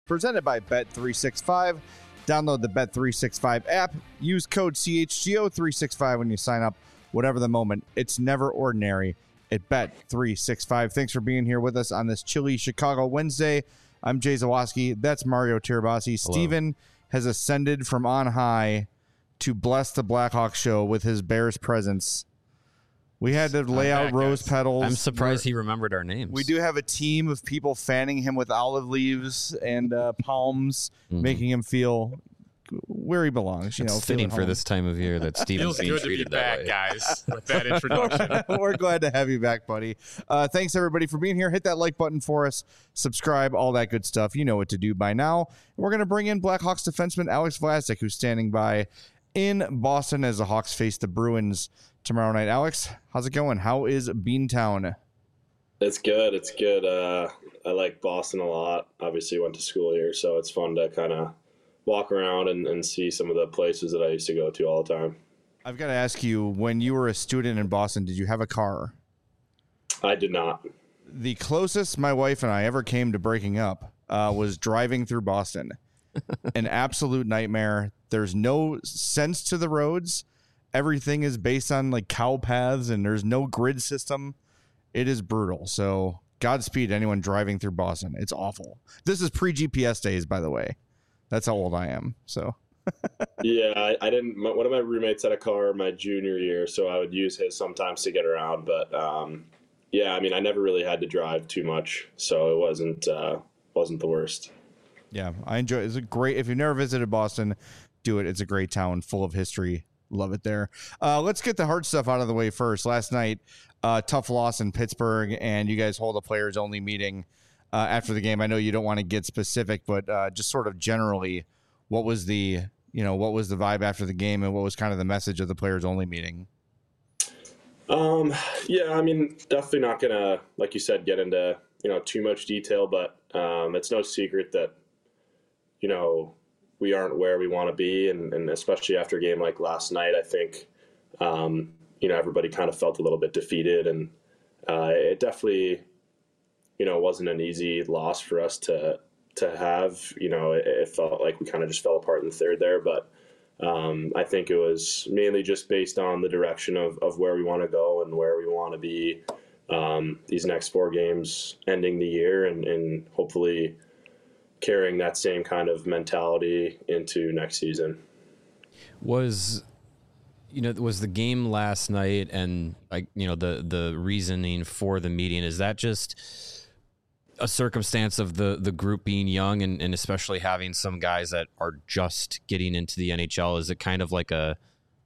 Presented by Bet365. Download the Bet365 app. Use code CHGO365 when you sign up. Whatever the moment, it's never ordinary at Bet365. Thanks for being here with us on this chilly Chicago Wednesday. I'm Jay Zawaski. That's Mario Tirabassi. Steven has ascended from on high to bless the Blackhawks show with his Bears presence. We had to lay out rose petals. I'm surprised he remembered our names. We do have a team of people fanning him with olive leaves and palms, making him feel where he belongs. It's fitting for this time of year that Steven's being treated that way. Guys, with that introduction. We're glad to have you back, buddy. Thanks, everybody, for being here. Hit that like button for us. Subscribe, all that good stuff. You know what to do by now. We're going to bring in Blackhawks defenseman Alex Vlasic, who's standing by in Boston as the Hawks face the Bruins tomorrow night. Alex, how's it going? How is Beantown? It's good. It's good. I like Boston a lot. Obviously went to school here, so it's fun to kind of walk around and see some of the places that I used to go to all the time. I've got to ask you, when you were a student in Boston, did you have a car? I did not. The closest my wife and I ever came to breaking up was driving through Boston. An absolute nightmare. There's no sense to the roads. Everything is based on like cow paths, and there's no grid system. It is brutal. So Godspeed to anyone driving through Boston. It's awful. This is pre-GPS days, by the way. That's how old I am. So yeah, I didn't. One of my roommates had a car my junior year, so I would use his sometimes to get around. But yeah, I mean, I never really had to drive too much, so it wasn't the worst. Yeah, I enjoy it. It's a great. If you've never visited Boston, do it. It's a great town, full of history. Love it there. Let's get the hard stuff out of the way first. Last night, tough loss in Pittsburgh, and you guys hold a players only meeting after the game. I know you don't want to get specific, but just sort of generally, what was the vibe after the game, and what was kind of the message of the players only meeting? Yeah, I mean, definitely not gonna, like you said, get into too much detail, but it's no secret that we aren't where we want to be, and especially after a game like last night, I think everybody kind of felt a little bit defeated, and it definitely wasn't an easy loss for us to have. It felt like we kind of just fell apart in the third there, but I think it was mainly just based on the direction of where we want to go and where we want to be these next 4 games ending the year, and hopefully carrying that same kind of mentality into next season. Was the game last night and the reasoning for the meeting, is that just a circumstance of the group being young and especially having some guys that are just getting into the NHL? Is it kind of like a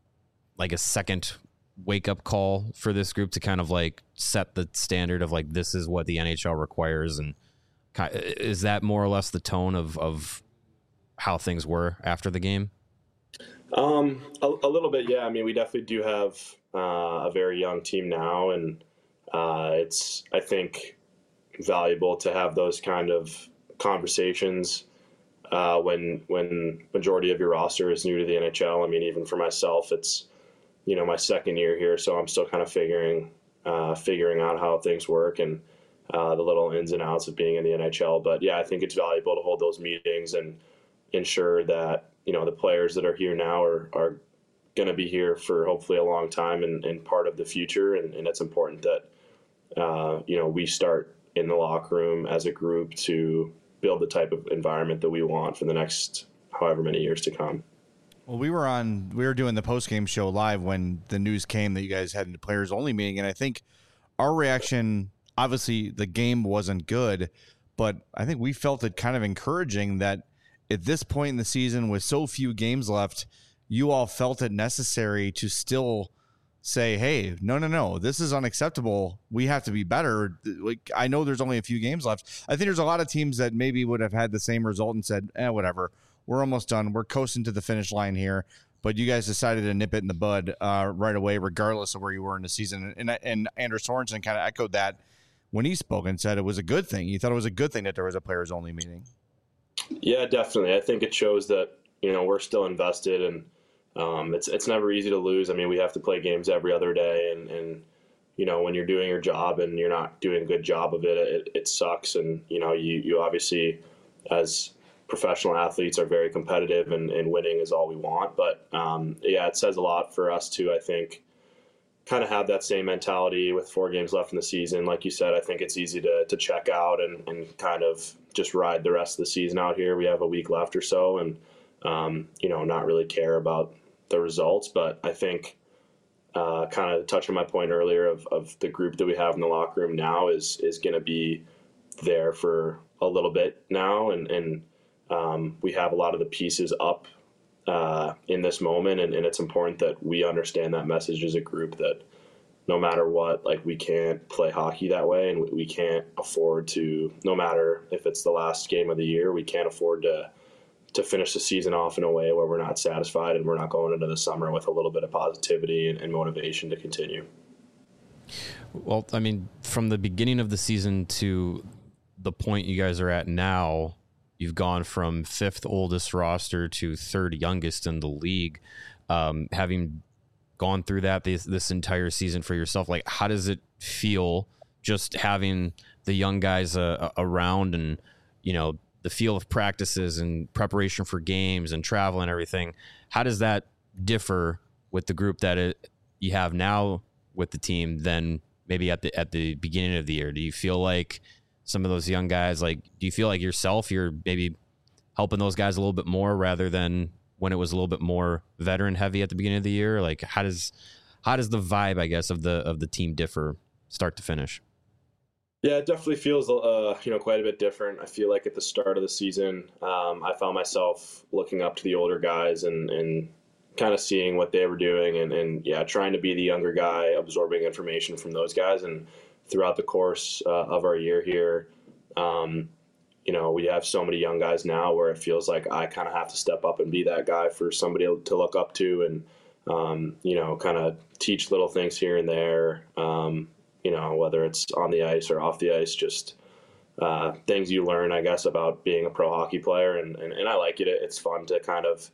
second wake up call for this group to kind of like set the standard of like, this is what the NHL requires? And is that more or less the tone of how things were after the game? A little bit, yeah. I mean, we definitely do have a very young team now, and it's, I think, valuable to have those kind of conversations when majority of your roster is new to the NHL. I mean, even for myself, it's my second year here, so I'm still kind of figuring out how things work and the little ins and outs of being in the NHL. But yeah, I think it's valuable to hold those meetings and ensure that the players that are here now are going to be here for hopefully a long time and part of the future. And it's important that we start in the locker room as a group to build the type of environment that we want for the next however many years to come. Well, we were doing the post-game show live when the news came that you guys had a players only meeting, and I think our reaction, obviously the game wasn't good, but I think we felt it kind of encouraging that at this point in the season with so few games left, you all felt it necessary to still say, hey, no, this is unacceptable. We have to be better. Like, I know there's only a few games left. I think there's a lot of teams that maybe would have had the same result and said, whatever, we're almost done. We're coasting to the finish line here. But you guys decided to nip it in the bud right away, regardless of where you were in the season. And Anders Sorensen kind of echoed that when he spoke and said it was a good thing. He thought it was a good thing that there was a players only meeting. Yeah, definitely. I think it shows that, we're still invested, and it's never easy to lose. I mean, we have to play games every other day, and when you're doing your job and you're not doing a good job of it, it sucks. And, you obviously, as professional athletes are very competitive, and winning is all we want. But yeah, it says a lot for us to, I think, kind of have that same mentality with 4 games left in the season. Like you said, I think it's easy to check out and kind of just ride the rest of the season out here. We have a week left or so, and not really care about the results. But I think kind of touching my point earlier of the group that we have in the locker room now is going to be there for a little bit now, and we have a lot of the pieces up in this moment, and it's important that we understand that message as a group, that no matter what, like, we can't play hockey that way, and we can't afford to, no matter if it's the last game of the year, we can't afford to finish the season off in a way where we're not satisfied and we're not going into the summer with a little bit of positivity and motivation to continue. Well, I mean, from the beginning of the season to the point you guys are at now, you've gone from 5th oldest roster to 3rd youngest in the league. Having gone through that this entire season for yourself, like, how does it feel just having the young guys around, and, the feel of practices and preparation for games and travel and everything? How does that differ with the group that you have now with the team than maybe at the beginning of the year? Do you feel like some of those young guys, like, do you feel like yourself, you're maybe helping those guys a little bit more rather than when it was a little bit more veteran heavy at the beginning of the year? Like, how does the vibe, I guess, of the team differ start to finish? Yeah, it definitely feels, quite a bit different. I feel like at the start of the season, I found myself looking up to the older guys and kind of seeing what they were doing, and trying to be the younger guy, absorbing information from those guys. And throughout the course of our year here, we have so many young guys now where it feels like I kind of have to step up and be that guy for somebody to look up to, and kind of teach little things here and there. Whether it's on the ice or off the ice, just things you learn, I guess, about being a pro hockey player. And I like it. It's fun to kind of,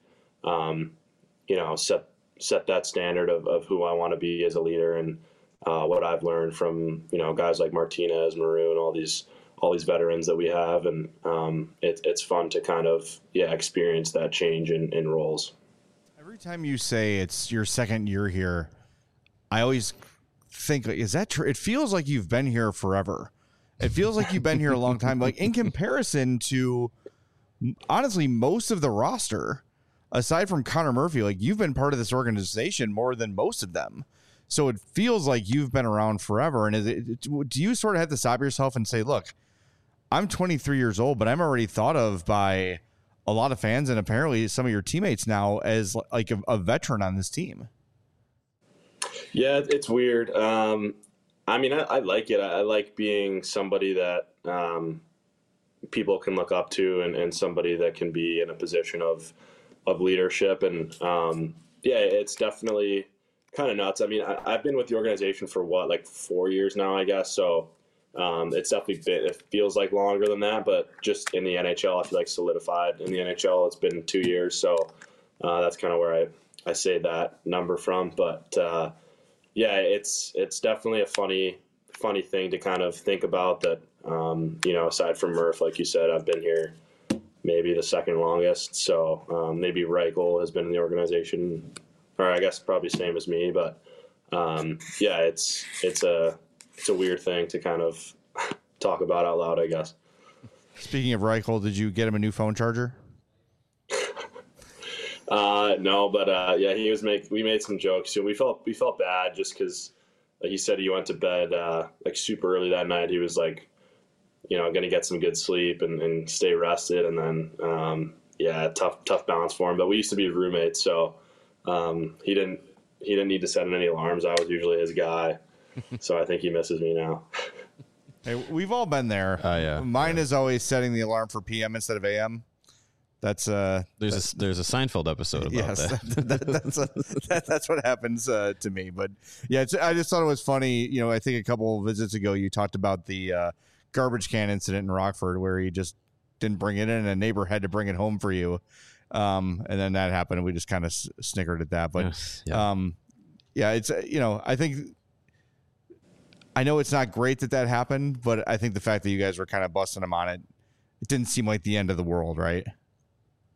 set that standard of who I want to be as a leader, and what I've learned from, guys like Martinez, Maroon, all these veterans that we have. And it's fun to kind of, experience that change in roles. Every time you say it's your second year here, I always think, is that true? It feels like you've been here forever. It feels like you've been here a long time. Like, in comparison to, honestly, most of the roster, aside from Connor Murphy, like, you've been part of this organization more than most of them. So it feels like you've been around forever. And do you sort of have to stop yourself and say, look, I'm 23 years old, but I'm already thought of by a lot of fans and apparently some of your teammates now as like a veteran on this team? Yeah, it's weird. I like it. I like being somebody that people can look up to, and somebody that can be in a position of leadership. And it's definitely kind of nuts. I mean, I've been with the organization for 4 years now, I guess. So it's definitely it feels like longer than that, but just in the NHL, I feel like solidified in the NHL. It's been 2 years. So that's kind of where I say that number from. But it's definitely a funny thing to kind of think about, that, aside from Murph, like you said, I've been here maybe the second longest. So maybe Reichel has been in the organization, or I guess probably same as me. But it's a weird thing to kind of talk about out loud, I guess. Speaking of Reichel, did you get him a new phone charger? No, but we made some jokes. So we felt bad just because, like he said, he went to bed super early that night. He was like, going to get some good sleep and stay rested, and then tough balance for him. But we used to be roommates, so he didn't need to set any alarms. I was usually his guy, so I think he misses me now. Hey, we've all been there. Mine is always setting the alarm for PM instead of AM. There's a Seinfeld episode about that. That's what happens to me. But yeah, I just thought it was funny. I think a couple of visits ago you talked about the garbage can incident in Rockford where you just didn't bring it in, and a neighbor had to bring it home for you. And then that happened, and we just kind of snickered at that. But it's I think, I know it's not great that happened, but I think the fact that you guys were kind of busting him on it, it didn't seem like the end of the world, right?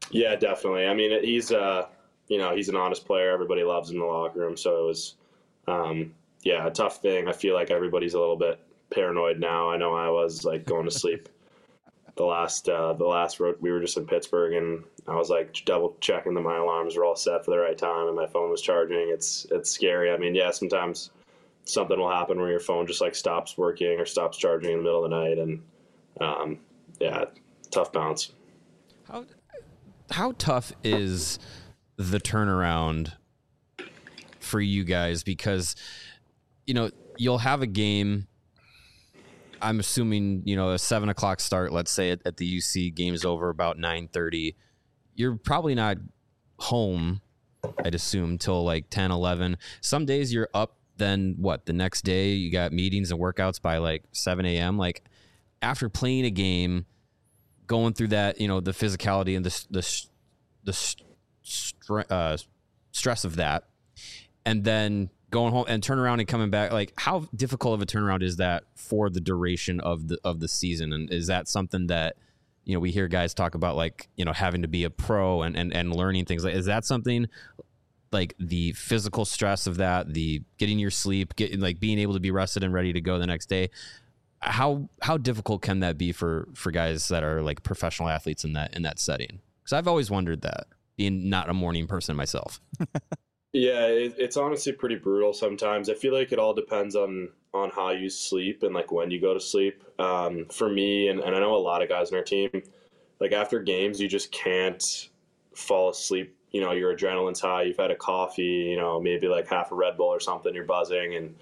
Yeah, definitely. I mean, he's he's an honest player. Everybody loves him in the locker room. So it was, a tough thing. I feel like everybody's a little bit paranoid now. I know I was like going to sleep the last road. We were just in Pittsburgh, and I was like double checking that my alarms were all set for the right time and my phone was charging. It's scary. I mean, yeah, sometimes something will happen where your phone just like stops working or stops charging in the middle of the night, and tough bounce. How tough is the turnaround for you guys? Because, you'll have a game. I'm assuming, a 7:00 start, let's say at the UC, game's over about 9:30. You're probably not home, I'd assume, till like 10, 11. Some days you're up, then the next day you got meetings and workouts by like 7 a.m. Like, after playing a game, going through that, the physicality and the stress of that, and then going home and turn around and coming back, like, how difficult of a turnaround is that for the duration of the season? And is that something that, we hear guys talk about, like, having to be a pro and learning things? Like, is that something, like, the physical stress of that, the getting your sleep, being able to be rested and ready to go the next day? How difficult can that be for guys that are like professional athletes in that setting? Because I've always wondered that, being not a morning person myself. Yeah, it's honestly pretty brutal sometimes. I feel like it all depends on how you sleep and like when you go to sleep. For me, and I know a lot of guys on our team, like after games, you just can't fall asleep. Your adrenaline's high. You've had a coffee, maybe like half a Red Bull or something. You're buzzing, and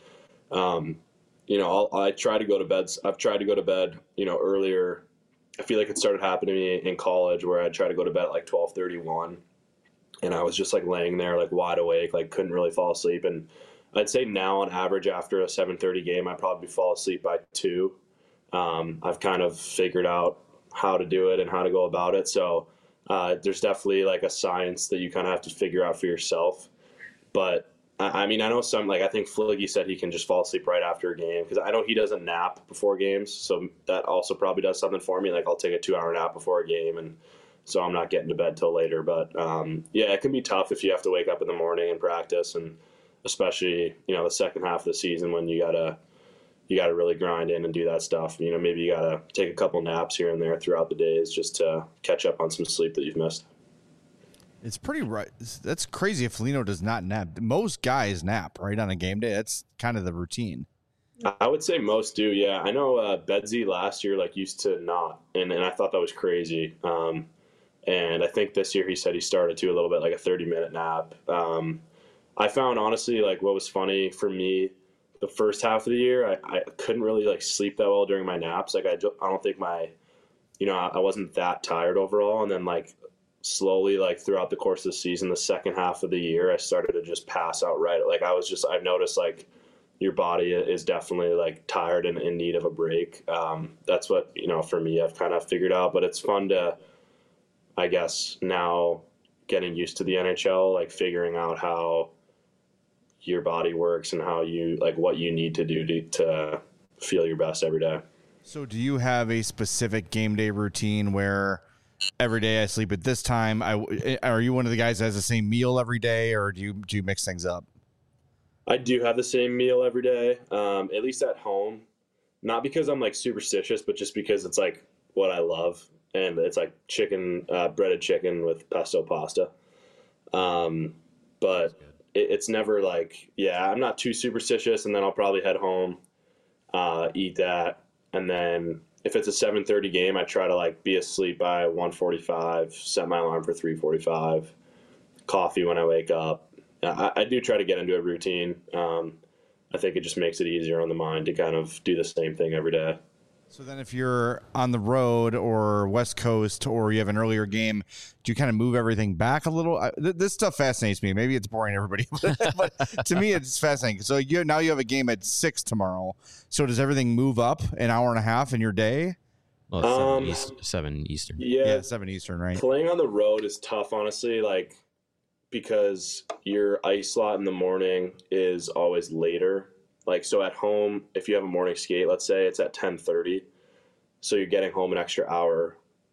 I try to go to bed. I've tried to go to bed, earlier. I feel like it started happening to me in college where I'd try to go to bed at like 12:31. And I was just like laying there, like wide awake, like couldn't really fall asleep. And I'd say now on average after a 7:30 game, I probably fall asleep by 2. I've kind of figured out how to do it and how to go about it. So there's definitely like a science that you kind of have to figure out for yourself. But I mean, I know I think Fliggy said he can just fall asleep right after a game, because I know he doesn't nap before games. So that also probably does something for me. Like I'll take a 2-hour nap before a game, and so I'm not getting to bed till later. But it can be tough if you have to wake up in the morning and practice, and especially the second half of the season when you gotta really grind in and do that stuff. Maybe you gotta take a couple naps here and there throughout the days just to catch up on some sleep that you've missed. It's pretty right. That's crazy if Foligno does not nap. Most guys nap right on a game day. That's kind of the routine. I would say most do. Yeah, I know Bedsy last year used to not, and I thought that was crazy. And I think this year he said he started to a little bit, like a 30-minute nap. I found, honestly, like what was funny for me, the first half of the year, I couldn't really like sleep that well during my naps. Like I don't think I wasn't that tired overall. And then like slowly, like throughout the course of the season, the second half of the year, I started to just pass out right. Like I've noticed like your body is definitely like tired and in need of a break. That's what, for me, I've kind of figured out. But it's fun to, I guess, now getting used to the NHL, like figuring out how your body works and how you like what you need to do to feel your best every day. So do you have a specific game day routine where every day I sleep at this time? Are you one of the guys that has the same meal every day, or do you mix things up? I do have the same meal every day, at least at home. Not because I'm like superstitious, but just because it's like what I love. And it's like chicken, breaded chicken with pesto pasta. But it's never like, I'm not too superstitious. And then I'll probably head home, eat that. And then if it's a 7:30 game, I try to like be asleep by 1:45, set my alarm for 3:45, coffee when I wake up. I do try to get into a routine. I think it just makes it easier on the mind to kind of do the same thing every day. So then if you're on the road or West Coast or you have an earlier game, do you kind of move everything back a little? This stuff fascinates me. Maybe it's boring to everybody, but to me it's fascinating. So now you have a game at 6 tomorrow. So does everything move up an hour and a half in your day? Well, it's 7 Eastern. Yeah, 7 Eastern, right? Playing on the road is tough, honestly, like because your ice slot in the morning is always later. Like, so at home, if you have a morning skate, let's say it's at 10:30, so you're getting home an extra hour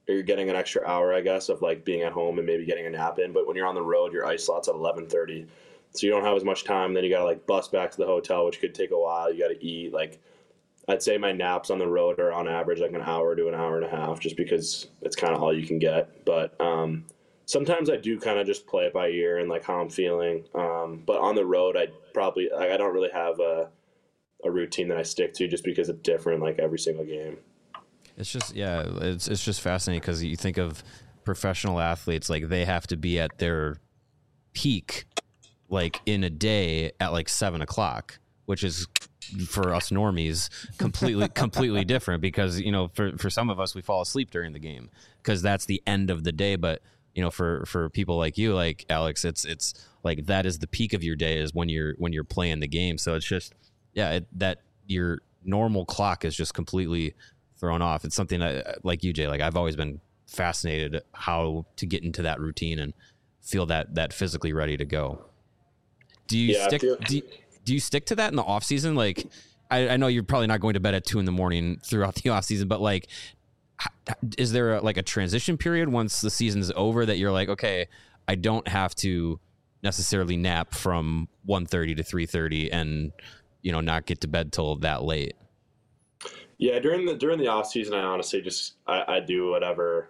you're getting an extra hour, I guess, of like being at home and maybe getting a nap in. But when you're on the road, your ice slot's at 11:30, so you don't have as much time. Then you got to like bus back to the hotel, which could take a while. You got to eat. Like, I'd say my naps on the road are on average like an hour to an hour and a half, just because it's kind of all you can get. But sometimes I do kind of just play it by ear and like how I'm feeling. But on the road, I don't really have a routine that I stick to, just because it's different like every single game. It's just, it's just fascinating because you think of professional athletes, like they have to be at their peak like in a day at like 7 o'clock, which is for us normies completely different, because, you know, for some of us, we fall asleep during the game because that's the end of the day. But, you know, for people like you, like Alex, it's like that is the peak of your day, is when you're playing the game. So it's just, that your normal clock is just completely thrown off. It's something like you, Jay, like I've always been fascinated how to get into that routine and feel that physically ready to go. Do you stick to that in the off season? Like, I know you're probably not going to bed at 2 a.m. throughout the off season, but like, is there a transition period once the season's over that you're like, okay, I don't have to necessarily nap from 1:30 to 3:30 and, you know, not get to bed till that late? Yeah, during the off season, I honestly just I do whatever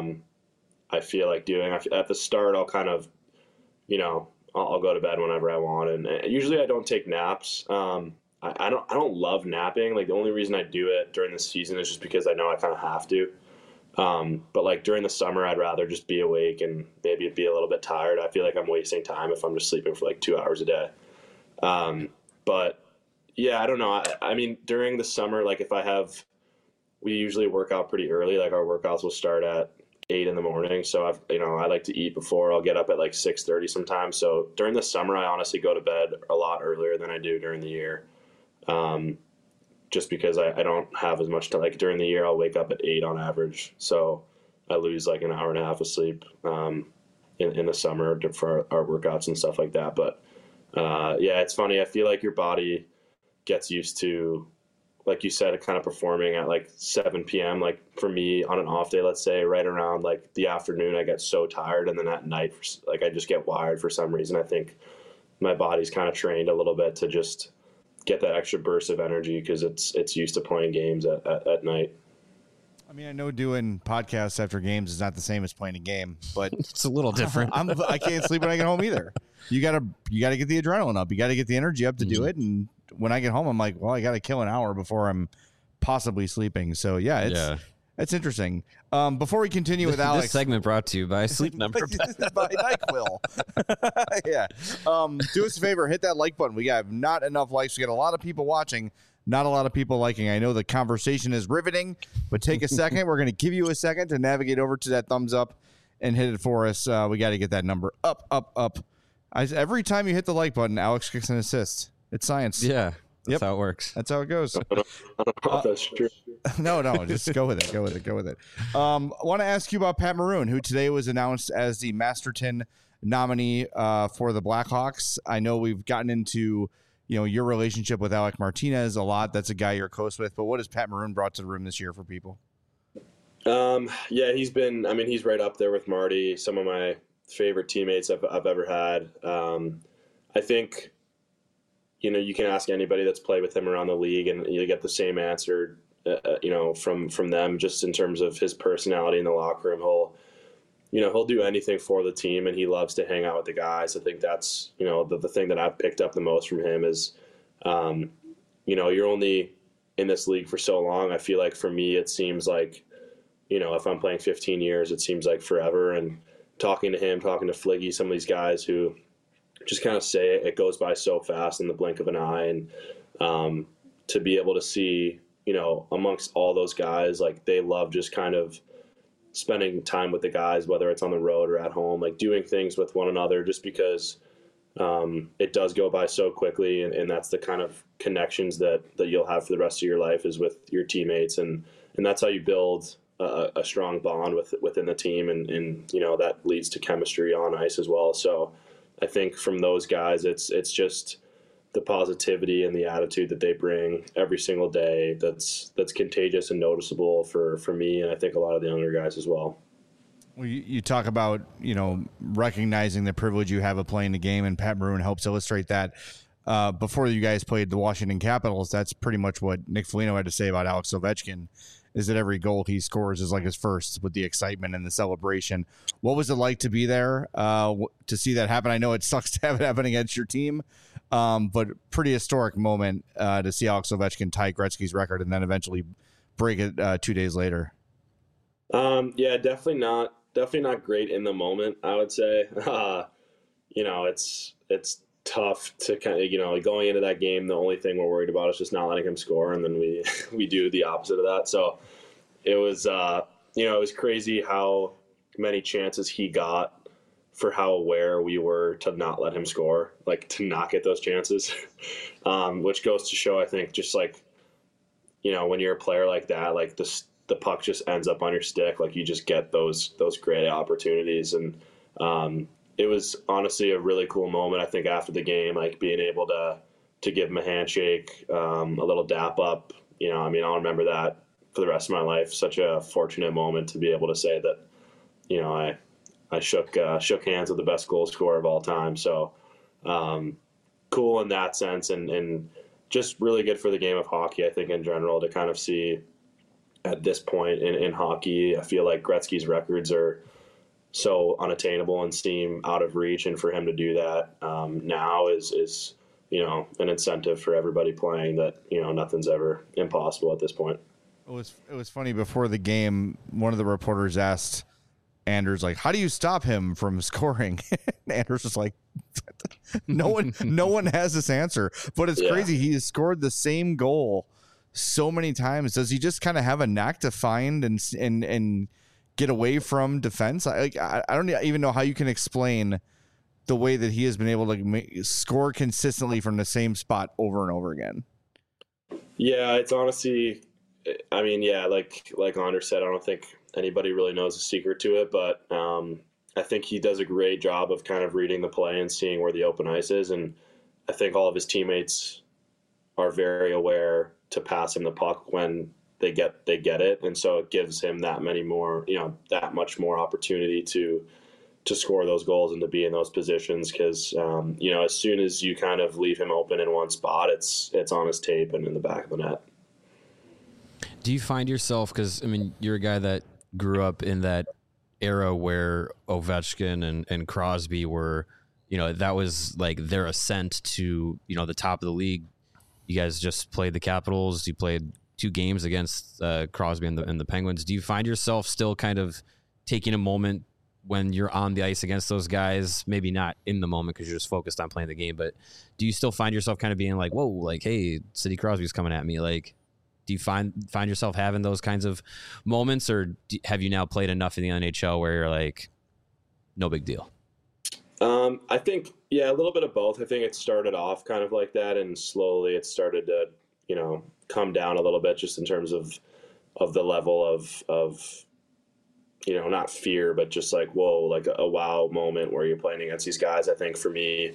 I feel like doing. At the start, I'll kind of, you know, I'll go to bed whenever I want, and usually I don't take naps. I don't love napping. Like, the only reason I do it during the season is just because I know I kind of have to. But like during the summer, I'd rather just be awake and maybe be a little bit tired. I feel like I'm wasting time if I'm just sleeping for like 2 hours a day. But yeah, I don't know. I mean, during the summer, like we usually work out pretty early. Like, our workouts will start at 8 a.m. So I like to eat before. I'll get up at like 6:30 sometimes. So during the summer, I honestly go to bed a lot earlier than I do during the year. Just because I don't have as much time. Like, during the year, I'll wake up at 8 on average. So I lose like an hour and a half of sleep, in the summer for our workouts and stuff like that. But, yeah, it's funny. I feel like your body gets used to, like you said, kind of performing at like 7 p.m. Like, for me on an off day, let's say right around like the afternoon, I get so tired. And then at night, like, I just get wired for some reason. I think my body's kind of trained a little bit to just get that extra burst of energy because it's used to playing games at night. I mean, I know doing podcasts after games is not the same as playing a game, but It's a little different. I can't sleep when I get home either. You gotta get the adrenaline up. You gotta get the energy up to do it. And when I get home, I'm like, well, I gotta kill an hour before I'm possibly sleeping. So yeah, it's interesting. Before we continue with Alex, This segment brought to you by Sleep Number. by NyQuil. Yeah. Do us a favor, hit that like button. We have not enough likes. We got a lot of people watching, not a lot of people liking. I know the conversation is riveting, but take a second. We're going to give you a second to navigate over to that thumbs up and hit it for us. We got to get that number up. Every time you hit the like button, Alex kicks an assist. It's science. Yeah. That's how it works. That's how it goes. I don't know if that's true. No, just go with it. Go with it. I want to ask you about Pat Maroon, who today was announced as the Masterton nominee for the Blackhawks. I know we've gotten into, you know, your relationship with Alec Martinez a lot. That's a guy you're close with. But what has Pat Maroon brought to the room this year for people? Yeah, he's right up there with Marty. Some of my favorite teammates I've ever had. I think, you know, you can ask anybody that's played with him around the league, and you get the same answer, you know, from them, just in terms of his personality in the locker room. He'll do anything for the team, and he loves to hang out with the guys. I think that's, you know, the thing that I've picked up the most from him is, you know, you're only in this league for so long. I feel like for me, it seems like, you know, if I'm playing 15 years, it seems like forever. And talking to him, talking to Fliggy, some of these guys who just kind of say it goes by so fast in the blink of an eye. And to be able to see, you know, amongst all those guys, like, they love just kind of spending time with the guys, whether it's on the road or at home, like doing things with one another, just because it does go by so quickly. And that's the kind of connections that you'll have for the rest of your life, is with your teammates. And that's how you build a strong bond within the team. And, you know, that leads to chemistry on ice as well. So I think from those guys, it's just the positivity and the attitude that they bring every single day that's contagious and noticeable for me, and I think a lot of the younger guys as well. Well, you talk about, recognizing the privilege you have of playing the game, and Pat Maroon helps illustrate that. Before you guys played the Washington Capitals, that's pretty much what Nick Foligno had to say about Alex Ovechkin, is that every goal he scores is like his first, with the excitement and the celebration. What was it like to be there, to see that happen? I know it sucks to have it happen against your team, but pretty historic moment to see Alex Ovechkin tie Gretzky's record and then eventually break it 2 days later. Yeah, definitely not great in the moment, I would say. It's tough to kind of, going into that game, the only thing we're worried about is just not letting him score, and then we do the opposite of that. So it was, it was crazy how many chances he got for how aware we were to not let him score, like to not get those chances, which goes to show, I think, just like, when you're a player like that, like the puck just ends up on your stick. Like you just get those great opportunities. And it was honestly a really cool moment. I think after the game, like being able to give him a handshake, a little dap up, I'll remember that for the rest of my life. Such a fortunate moment to be able to say that, I shook hands with the best goal scorer of all time. So cool in that sense, and just really good for the game of hockey, I think, in general, to kind of see at this point in hockey. I feel like Gretzky's records are so unattainable and seem out of reach, and for him to do that now is an incentive for everybody playing, that nothing's ever impossible at this point. It was funny, before the game, one of the reporters asked Anders, like, how do you stop him from scoring? Anders was like, no one has this answer, but it's crazy. He has scored the same goal so many times. Does he just kind of have a knack to find and get away from defense? I don't even know how you can explain the way that he has been able to score consistently from the same spot over and over again. Yeah, it's honestly, like Anders said, I don't think anybody really knows the secret to it, but I think he does a great job of kind of reading the play and seeing where the open ice is. And I think all of his teammates are very aware to pass him the puck when they get it. And so it gives him that much more opportunity to score those goals and to be in those positions. Cause as soon as you kind of leave him open in one spot, it's on his tape and in the back of the net. Do you find yourself, because you're a guy that grew up in that era where Ovechkin and Crosby were, that was like their ascent to, the top of the league. You guys just played the Capitals. You played 2 games against Crosby and the Penguins. Do you find yourself still kind of taking a moment when you're on the ice against those guys? Maybe not in the moment because you're just focused on playing the game, but do you still find yourself kind of being like, whoa, like, hey, Sidney Crosby's coming at me? Like, do you find yourself having those kinds of moments, or have you now played enough in the NHL where you're like, no big deal? I think, a little bit of both. I think it started off kind of like that, and slowly it started to, come down a little bit, just in terms of the level of not fear, but just like, whoa, like a wow moment where you're playing against these guys. I think for me,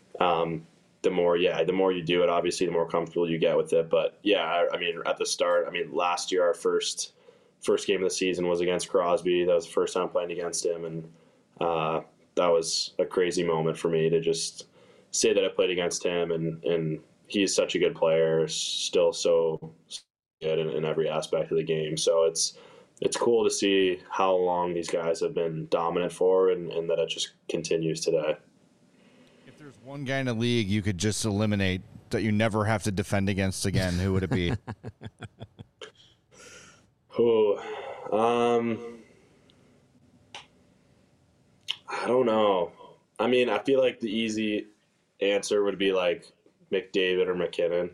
the more you do it, obviously, the more comfortable you get with it. But at the start, last year, our first game of the season was against Crosby. That was the first time playing against him. And that was a crazy moment for me to just say that I played against him. And he's such a good player, still so good in every aspect of the game. So it's cool to see how long these guys have been dominant for, and that it just continues today. If there's one guy in the league you could just eliminate that you never have to defend against again, who would it be? I don't know. I feel like the easy answer would be like McDavid or McKinnon.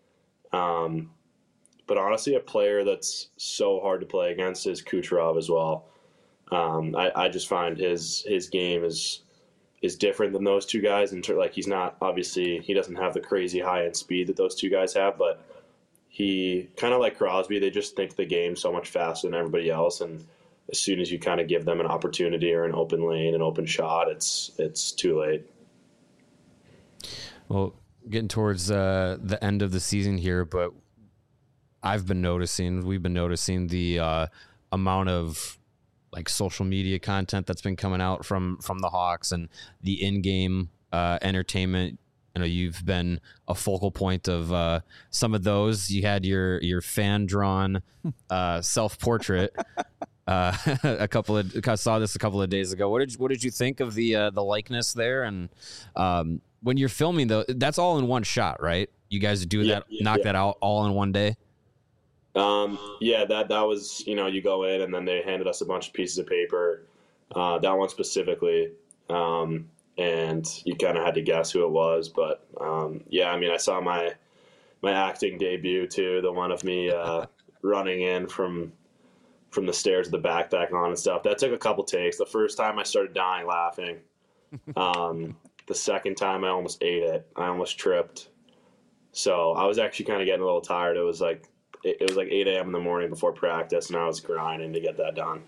But honestly, a player that's so hard to play against is Kucherov as well. I just find his game is different than those two guys. He's not, obviously, he doesn't have the crazy high end speed that those two guys have, but he kind of like Crosby, they just think the game so much faster than everybody else. And as soon as you kind of give them an opportunity or an open lane, an open shot, it's too late. Well, getting towards the end of the season here, but we've been noticing the amount of like social media content that's been coming out from the Hawks and the in-game entertainment. I know you've been a focal point of some of those. You had your fan drawn self-portrait. I saw this a couple of days ago. What did you think of the likeness there? And when you're filming though, that's all in one shot, right? You guys do that, knock that out all in one day. That was, you go in and then they handed us a bunch of pieces of paper, that one specifically. And you kind of had to guess who it was, but, I saw my acting debut too, the one of me, running in from the stairs with the backpack on and stuff. That took a couple takes. The first time I started dying laughing. The second time I almost ate it. I almost tripped. So I was actually kind of getting a little tired. It was like 8 a.m. in the morning before practice, and I was grinding to get that done.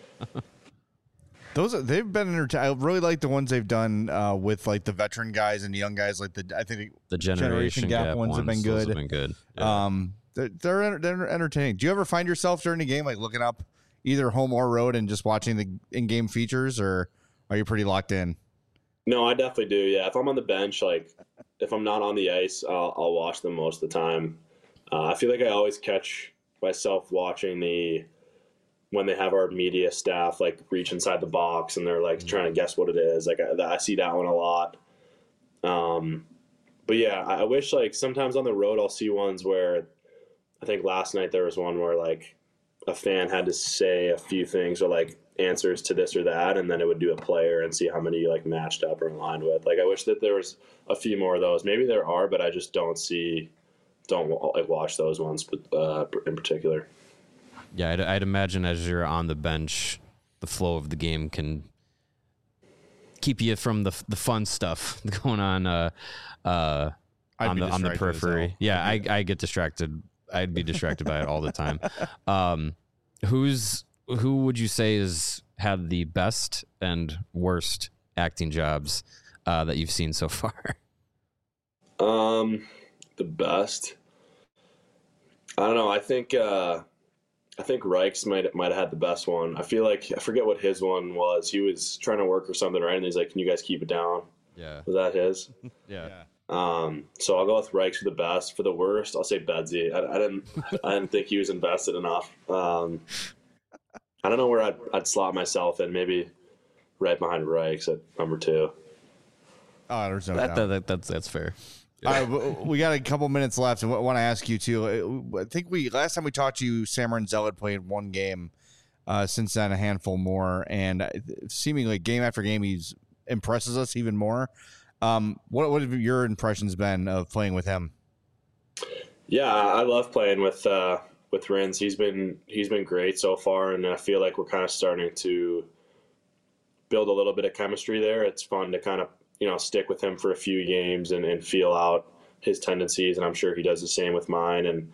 They've been I really like the ones they've done with like the veteran guys and the young guys. Like I think the generation gap ones have been good. Those have been good. Yeah. They're entertaining. Do you ever find yourself during the game like looking up either home or road and just watching the in-game features, or are you pretty locked in? No, I definitely do. Yeah, if I'm on the bench, like if I'm not on the ice, I'll watch them most of the time. I feel like I always catch myself watching when they have our media staff like reach inside the box and they're like trying to guess what it is. Like I see that one a lot. But yeah, I wish like sometimes on the road I'll see ones where I think last night there was one where like a fan had to say a few things or like answers to this or that, and then it would do a player and see how many you like matched up or aligned with. Like I wish that there was a few more of those. Maybe there are, but I just don't like watch those ones in particular. Yeah, I'd imagine as you're on the bench, the flow of the game can keep you from the fun stuff going on the periphery. Yeah, I get distracted. I'd be distracted by it all the time. Who would you say has had the best and worst acting jobs that you've seen so far? The best. I don't know. I think Reichs might have had the best one. I feel like I forget what his one was. He was trying to work or something, right? And he's like, "Can you guys keep it down?" Yeah. Was that his? Yeah. So I'll go with Reichs for the best. For the worst, I'll say Bedsy. I didn't think he was invested enough. I don't know where I'd slot myself in. Maybe right behind Reichs at number 2. Oh, there's no doubt. That's fair. All right, we got a couple minutes left, and I want to ask you too. I think last time we talked to you, Sam Rinzel had played one game. Since then, a handful more, and seemingly game after game, he impresses us even more. What have your impressions been of playing with him? Yeah, I love playing with Rins. He's been great so far, and I feel like we're kind of starting to build a little bit of chemistry there. It's fun to kind of stick with him for a few games and feel out his tendencies, and I'm sure he does the same with mine. And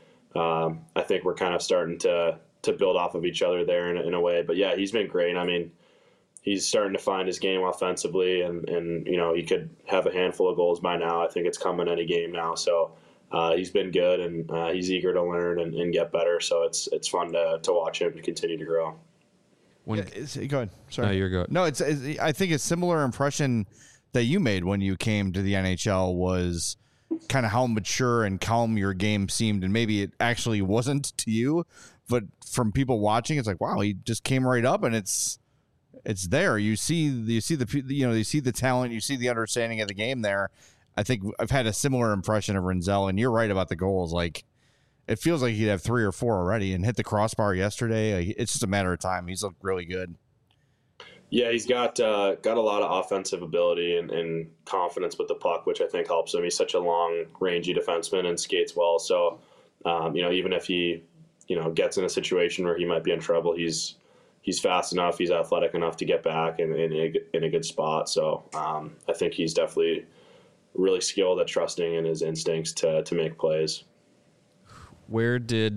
I think we're kind of starting to build off of each other there in a way. But yeah, he's been great. I mean, he's starting to find his game offensively, and he could have a handful of goals by now. I think it's coming any game now. So he's been good, and he's eager to learn and get better. So it's fun to watch him continue to grow. Go ahead. Sorry. No, you're good. No, it's I think a similar impression that you made when you came to the NHL was kind of how mature and calm your game seemed, and maybe it actually wasn't to you, but from people watching, it's like, wow, he just came right up, and it's there. You see the talent, you see the understanding of the game there. I think I've had a similar impression of Rinzel, and you're right about the goals. Like, it feels like he'd have 3 or 4 already, and hit the crossbar yesterday. It's just a matter of time. He's looked really good. Yeah, he's got a lot of offensive ability and confidence with the puck, which I think helps him. He's such a long, rangy defenseman and skates well. So, even if he, gets in a situation where he might be in trouble, he's fast enough, he's athletic enough to get back in a good spot. So, I think he's definitely really skilled at trusting in his instincts to make plays. Where did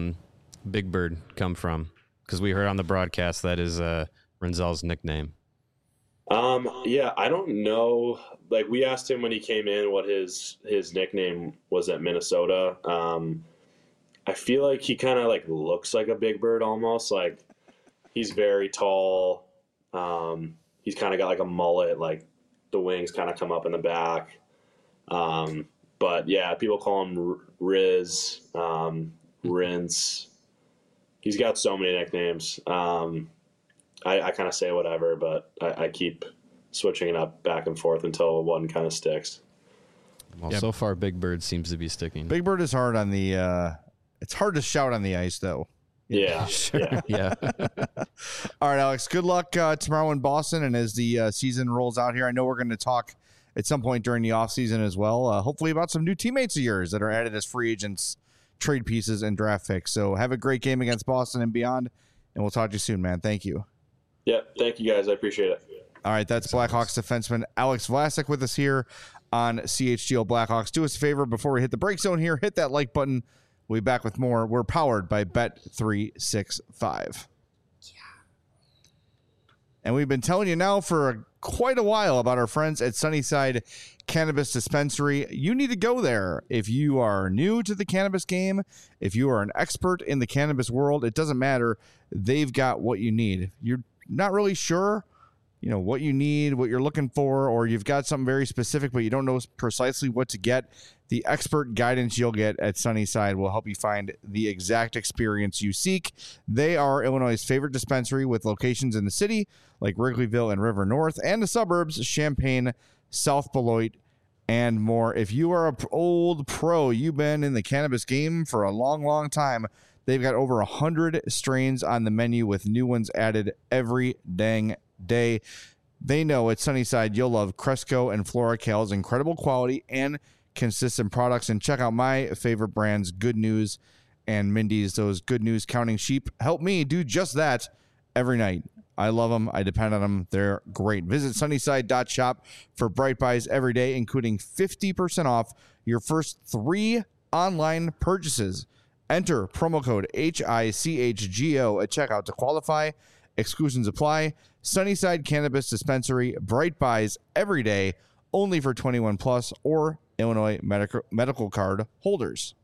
Big Bird come from? Because we heard on the broadcast that is Rinzel's nickname. Yeah, I don't know. Like, we asked him when he came in what his nickname was at Minnesota. I feel like he kind of like looks like a big bird almost. Like, he's very tall. He's kind of got like a mullet, like the wings kind of come up in the back. But yeah, people call him Riz, Rince. He's got so many nicknames. I kind of say whatever, but I keep switching it up back and forth until one kind of sticks. Well, so far, Big Bird seems to be sticking. Big Bird is hard on the. It's hard to shout on the ice, though. Yeah. Sure. Yeah. All right, Alex. Good luck tomorrow in Boston, and as the season rolls out here, I know we're going to talk at some point during the offseason as well. Hopefully about some new teammates of yours that are added as free agents, trade pieces, and draft picks. So have a great game against Boston and beyond, and we'll talk to you soon, man. Thank you. Yeah, thank you guys. I appreciate it. All right, that's Blackhawks defenseman Alex Vlasic with us here on CHGO Blackhawks. Do us a favor before we hit the break zone here. Hit that like button. We'll be back with more. We're powered by Bet365. And we've been telling you now for quite a while about our friends at Sunnyside Cannabis Dispensary. You need to go there. If you are new to the cannabis game, if you are an expert in the cannabis world, it doesn't matter. They've got what you need. You're not really sure, what you need, what you're looking for, or you've got something very specific, but you don't know precisely what to get. The expert guidance you'll get at Sunnyside will help you find the exact experience you seek. They are Illinois' favorite dispensary with locations in the city like Wrigleyville and River North, and the suburbs, Champaign, South Beloit, and more. If you are an old pro, you've been in the cannabis game for a long, long time, they've got over 100 strains on the menu with new ones added every dang day. They know at Sunnyside you'll love Cresco and FloraCal's incredible quality and consistent products. And check out my favorite brands, Good News and Mindy's. Those Good News counting sheep help me do just that every night. I love them. I depend on them. They're great. Visit sunnyside.shop for Bright Buys every day, including 50% off your first 3 online purchases. Enter promo code HICHGO at checkout to qualify. Exclusions apply. Sunnyside Cannabis Dispensary, Bright Buys every day, only for 21 plus or Illinois medical card holders.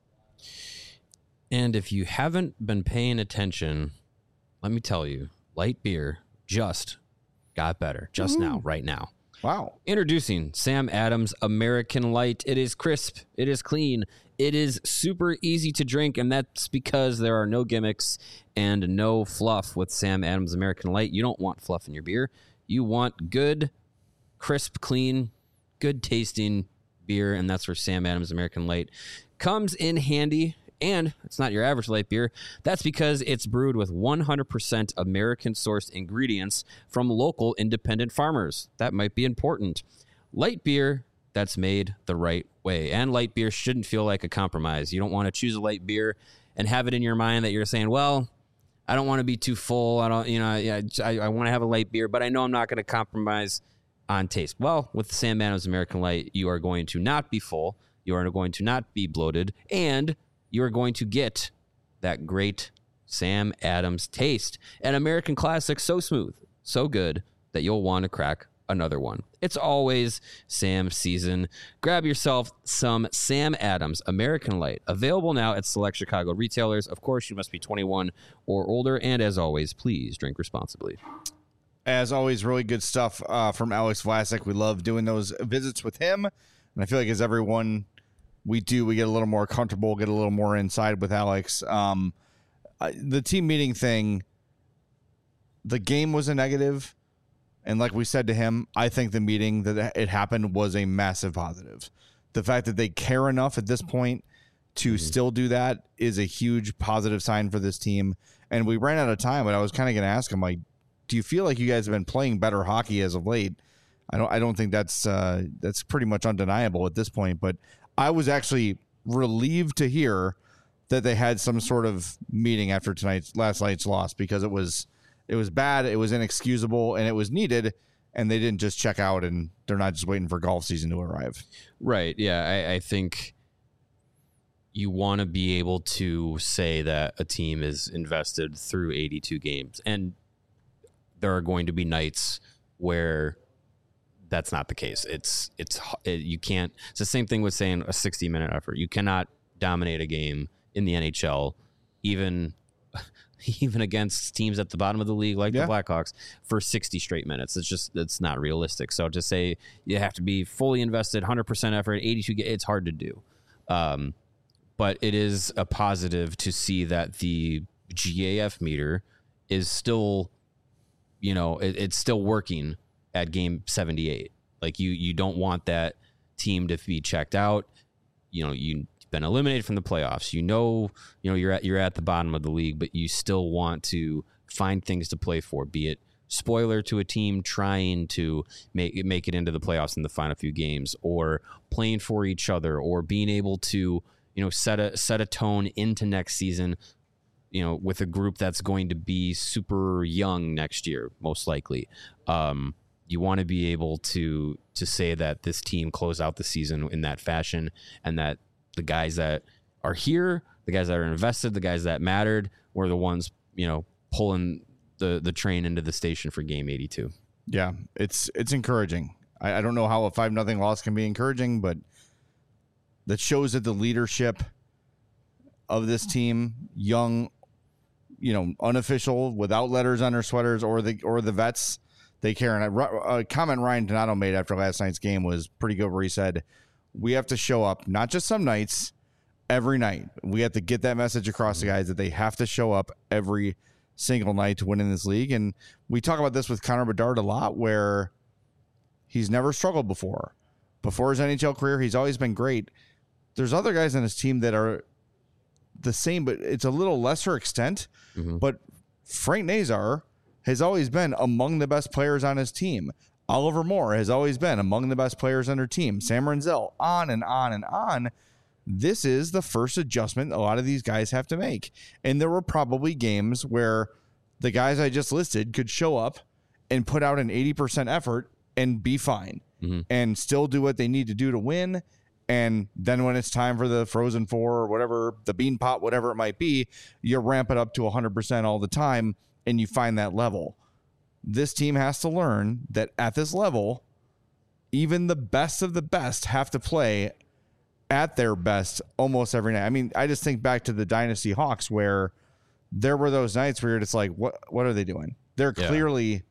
And if you haven't been paying attention, let me tell you, light beer just got better just now, right now. Wow. Introducing Sam Adams American Light. It is crisp. It is clean. It is super easy to drink, and that's because there are no gimmicks and no fluff with Sam Adams American Light. You don't want fluff in your beer. You want good, crisp, clean, good tasting beer, and that's where Sam Adams American Light comes in handy. And it's not your average light beer. That's because it's brewed with 100% American-sourced ingredients from local independent farmers. That might be important. Light beer that's made the right way. And light beer shouldn't feel like a compromise. You don't want to choose a light beer and have it in your mind that you're saying, well, I don't want to be too full. I want to have a light beer, but I know I'm not going to compromise on taste. Well, with Sam Adams American Light, you are going to not be full. You are going to not be bloated. And you are going to get that great Sam Adams taste. An American classic so smooth, so good, that you'll want to crack another one. It's always Sam season. Grab yourself some Sam Adams American Light. Available now at select Chicago retailers. Of course, you must be 21 or older. And as always, please drink responsibly. As always, really good stuff from Alex Vlasic. We love doing those visits with him. And I feel like as everyone we get a little more comfortable, get a little more inside with Alex. The team meeting thing, the game was a negative. And like we said to him, I think the meeting that it happened was a massive positive. The fact that they care enough at this point to still do that is a huge positive sign for this team. And we ran out of time, but I was kind of going to ask him, like, do you feel like you guys have been playing better hockey as of late? I don't think that's pretty much undeniable at this point, but I was actually relieved to hear that they had some sort of meeting after last night's loss, because it was bad, it was inexcusable, and it was needed, and they didn't just check out and they're not just waiting for golf season to arrive. Right. Yeah. I think you want to be able to say that a team is invested through 82 games, and there are going to be nights where that's not the case. You can't. It's the same thing with saying a 60-minute effort. You cannot dominate a game in the NHL, even against teams at the bottom of the league like the Blackhawks for 60 straight minutes. It's not realistic. So to say you have to be fully invested, 100% effort, 82, it's hard to do. But it is a positive to see that the GAF meter is still, it's still working at game 78. Like you don't want that team to be checked out. You've been eliminated from the playoffs. You're at the bottom of the league, but you still want to find things to play for, be it spoiler to a team trying to make it into the playoffs in the final few games, or playing for each other, or being able to, set a tone into next season, with a group that's going to be super young next year, most likely. You want to be able to say that this team closed out the season in that fashion, and that the guys that are here, the guys that are invested, the guys that mattered, were the ones, pulling the train into the station for game 82. Yeah, it's encouraging. I don't know how a 5-0 loss can be encouraging, but that shows that the leadership of this team, young, unofficial, without letters on their sweaters, or the vets, they care. And a comment Ryan Donato made after last night's game was pretty good, where he said, we have to show up, not just some nights, every night. We have to get that message across to guys that they have to show up every single night to win in this league. And we talk about this with Connor Bedard a lot, where he's never struggled before. Before his NHL career, he's always been great. There's other guys on his team that are the same, but it's a little lesser extent. Mm-hmm. But Frank Nazar has always been among the best players on his team. Oliver Moore has always been among the best players on their team. Sam Renzel, on and on and on. This is the first adjustment a lot of these guys have to make. And there were probably games where the guys I just listed could show up and put out an 80% effort and be fine, and still do what they need to do to win. And then when it's time for the Frozen Four or whatever, the Bean Pot, whatever it might be, you ramp it up to 100% all the time, and you find that level. This team has to learn that at this level, even the best of the best have to play at their best almost every night. I mean, I just think back to the Dynasty Hawks, where there were those nights where you're just like, what are they doing? They're clearly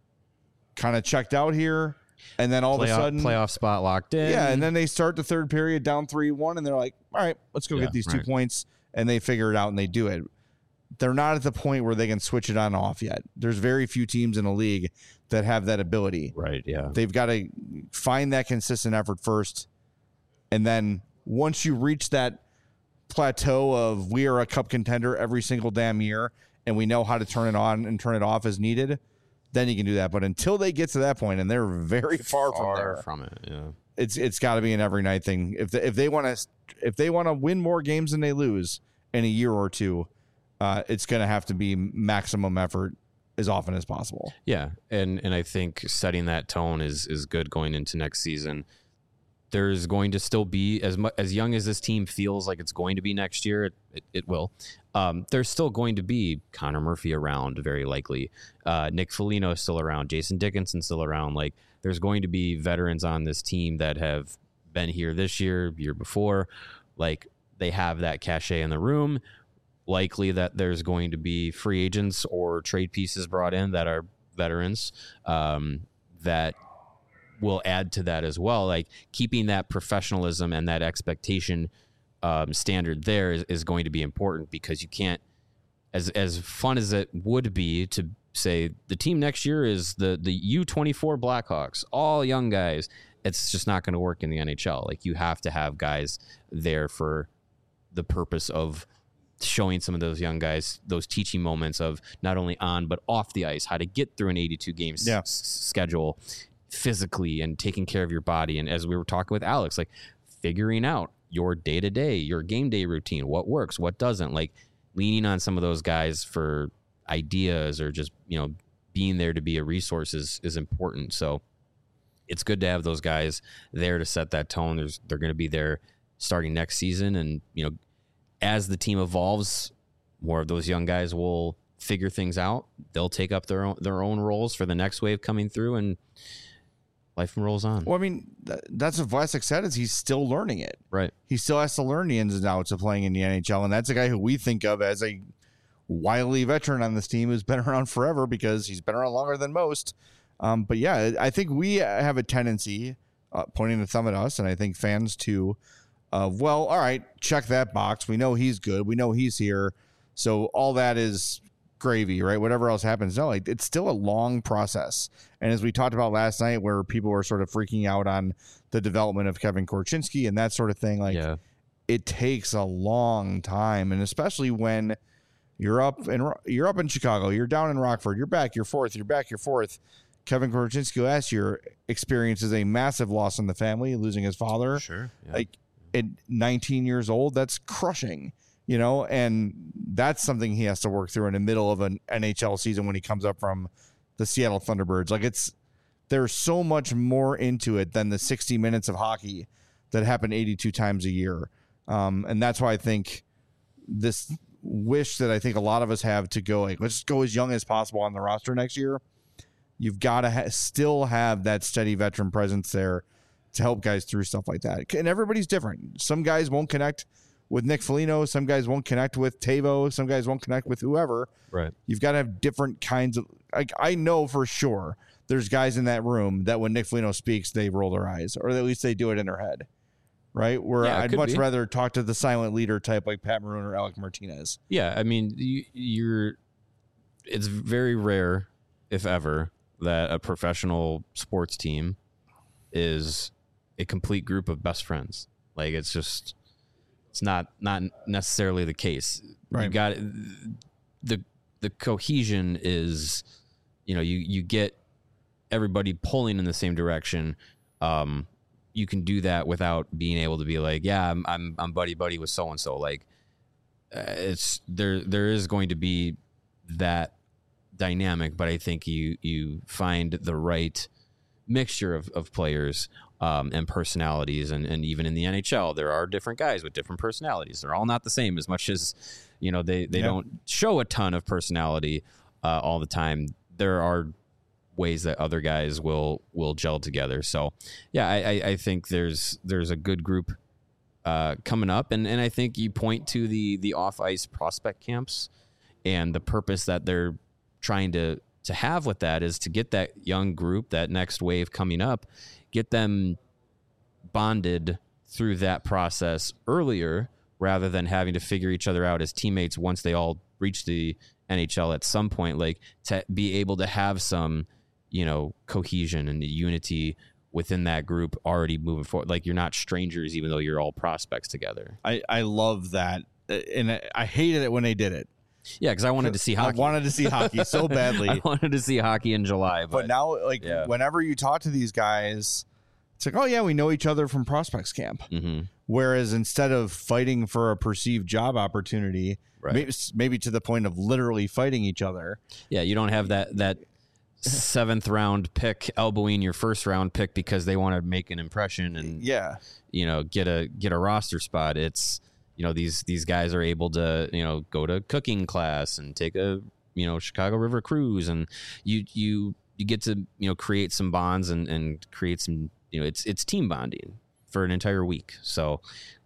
kind of checked out here. And then all of a sudden, playoff spot locked in. Yeah. And then they start the third period down 3-1, and they're like, all right, let's go get these 2 points. And they figure it out and they do it. They're not at the point where they can switch it on and off yet. There's very few teams in the league that have that ability. Right. Yeah. They've got to find that consistent effort first. And then once you reach that plateau of we are a cup contender every single damn year, and we know how to turn it on and turn it off as needed, then you can do that. But until they get to that point, and they're very far from it, yeah, it's got to be an every night thing. If they want to win more games than they lose in a year or two, it's going to have to be maximum effort as often as possible. Yeah, and I think setting that tone is good going into next season. There's going to still be, as young as this team feels like it's going to be next year, it will. There's still going to be Connor Murphy around, very likely. Nick Foligno is still around. Jason Dickinson still around. Like, there's going to be veterans on this team that have been here this year before. Like, they have that cachet in the room. Likely that there's going to be free agents or trade pieces brought in that are veterans that will add to that as well. Like, keeping that professionalism and that expectation standard there is going to be important, because you can't, as fun as it would be to say the team next year is the U24 Blackhawks, all young guys, it's just not going to work in the NHL. Like, you have to have guys there for the purpose of showing some of those young guys those teaching moments of not only on but off the ice, how to get through an 82 game schedule physically and taking care of your body. And as we were talking with Alex, like, figuring out your day-to-day, your game day routine, what works, what doesn't, like leaning on some of those guys for ideas, or just, being there to be a resource is important. So it's good to have those guys there to set that tone. They're going to be there starting next season. And, as the team evolves, more of those young guys will figure things out. They'll take up their own roles for the next wave coming through. And life rolls on. Well, I mean, that's what Vlasic said, is he's still learning it. Right. He still has to learn the ins and outs of playing in the NHL, and that's a guy who we think of as a wily veteran on this team who's been around forever because he's been around longer than most. But yeah, I think we have a tendency, pointing the thumb at us, and I think fans too, of, well, all right, check that box. We know he's good. We know he's here. So all that is gravy, right? Whatever else happens. No, it's still a long process. And as we talked about last night, where people were sort of freaking out on the development of Kevin Korchinski and that sort of thing, it takes a long time. And especially when you're up in Chicago, you're down in Rockford, you're back, you're fourth, you're back, you're fourth. Kevin Korchinski last year experiences a massive loss in the family, losing his father. Sure. Yeah. Like at 19 years old, that's crushing. And that's something he has to work through in the middle of an NHL season when he comes up from the Seattle Thunderbirds. Like, there's so much more into it than the 60 minutes of hockey that happen 82 times a year. And that's why I think this wish that I think a lot of us have to go, like, let's go as young as possible on the roster next year. You've got to still have that steady veteran presence there to help guys through stuff like that. And everybody's different. Some guys won't connect with Nick Foligno. Some guys won't connect with Tavo. Some guys won't connect with whoever. Right. You've got to have different kinds of, like, I know for sure there's guys in that room that when Nick Foligno speaks, they roll their eyes, or at least they do it in their head. Right. Where I'd much rather talk to the silent leader type like Pat Maroon or Alec Martinez. Yeah. I mean, it's very rare, if ever, that a professional sports team is a complete group of best friends. Like, it's not necessarily the case. Right. You got the cohesion is, you get everybody pulling in the same direction. You can do that without being able to be like, yeah, I'm buddy with so and so. Like, it's there is going to be that dynamic, but I think you find the right mixture of players and personalities, and even in the NHL there are different guys with different personalities. They're all not the same, as much as they don't show a ton of personality all the time. There are ways that other guys will gel together. So yeah, I think there's a good group coming up, and I think you point to the off ice prospect camps, and the purpose that they're trying to have with that is to get that young group, that next wave coming up, get them bonded through that process earlier, rather than having to figure each other out as teammates once they all reach the NHL at some point. Like, to be able to have some, cohesion and unity within that group already moving forward. Like, you're not strangers, even though you're all prospects together. I love that. And I hated it when they did it. Yeah, because I wanted to see hockey. I wanted to see hockey so badly. I wanted to see hockey in July. But now, whenever you talk to these guys, it's like, oh, yeah, we know each other from prospects camp. Mm-hmm. Whereas instead of fighting for a perceived job opportunity, maybe to the point of literally fighting each other. Yeah, you don't have that seventh round pick elbowing your first round pick because they want to make an impression and get a roster spot. It's these guys are able to go to cooking class and take a Chicago River cruise, and you get to create some bonds and create some it's team bonding for an entire week. So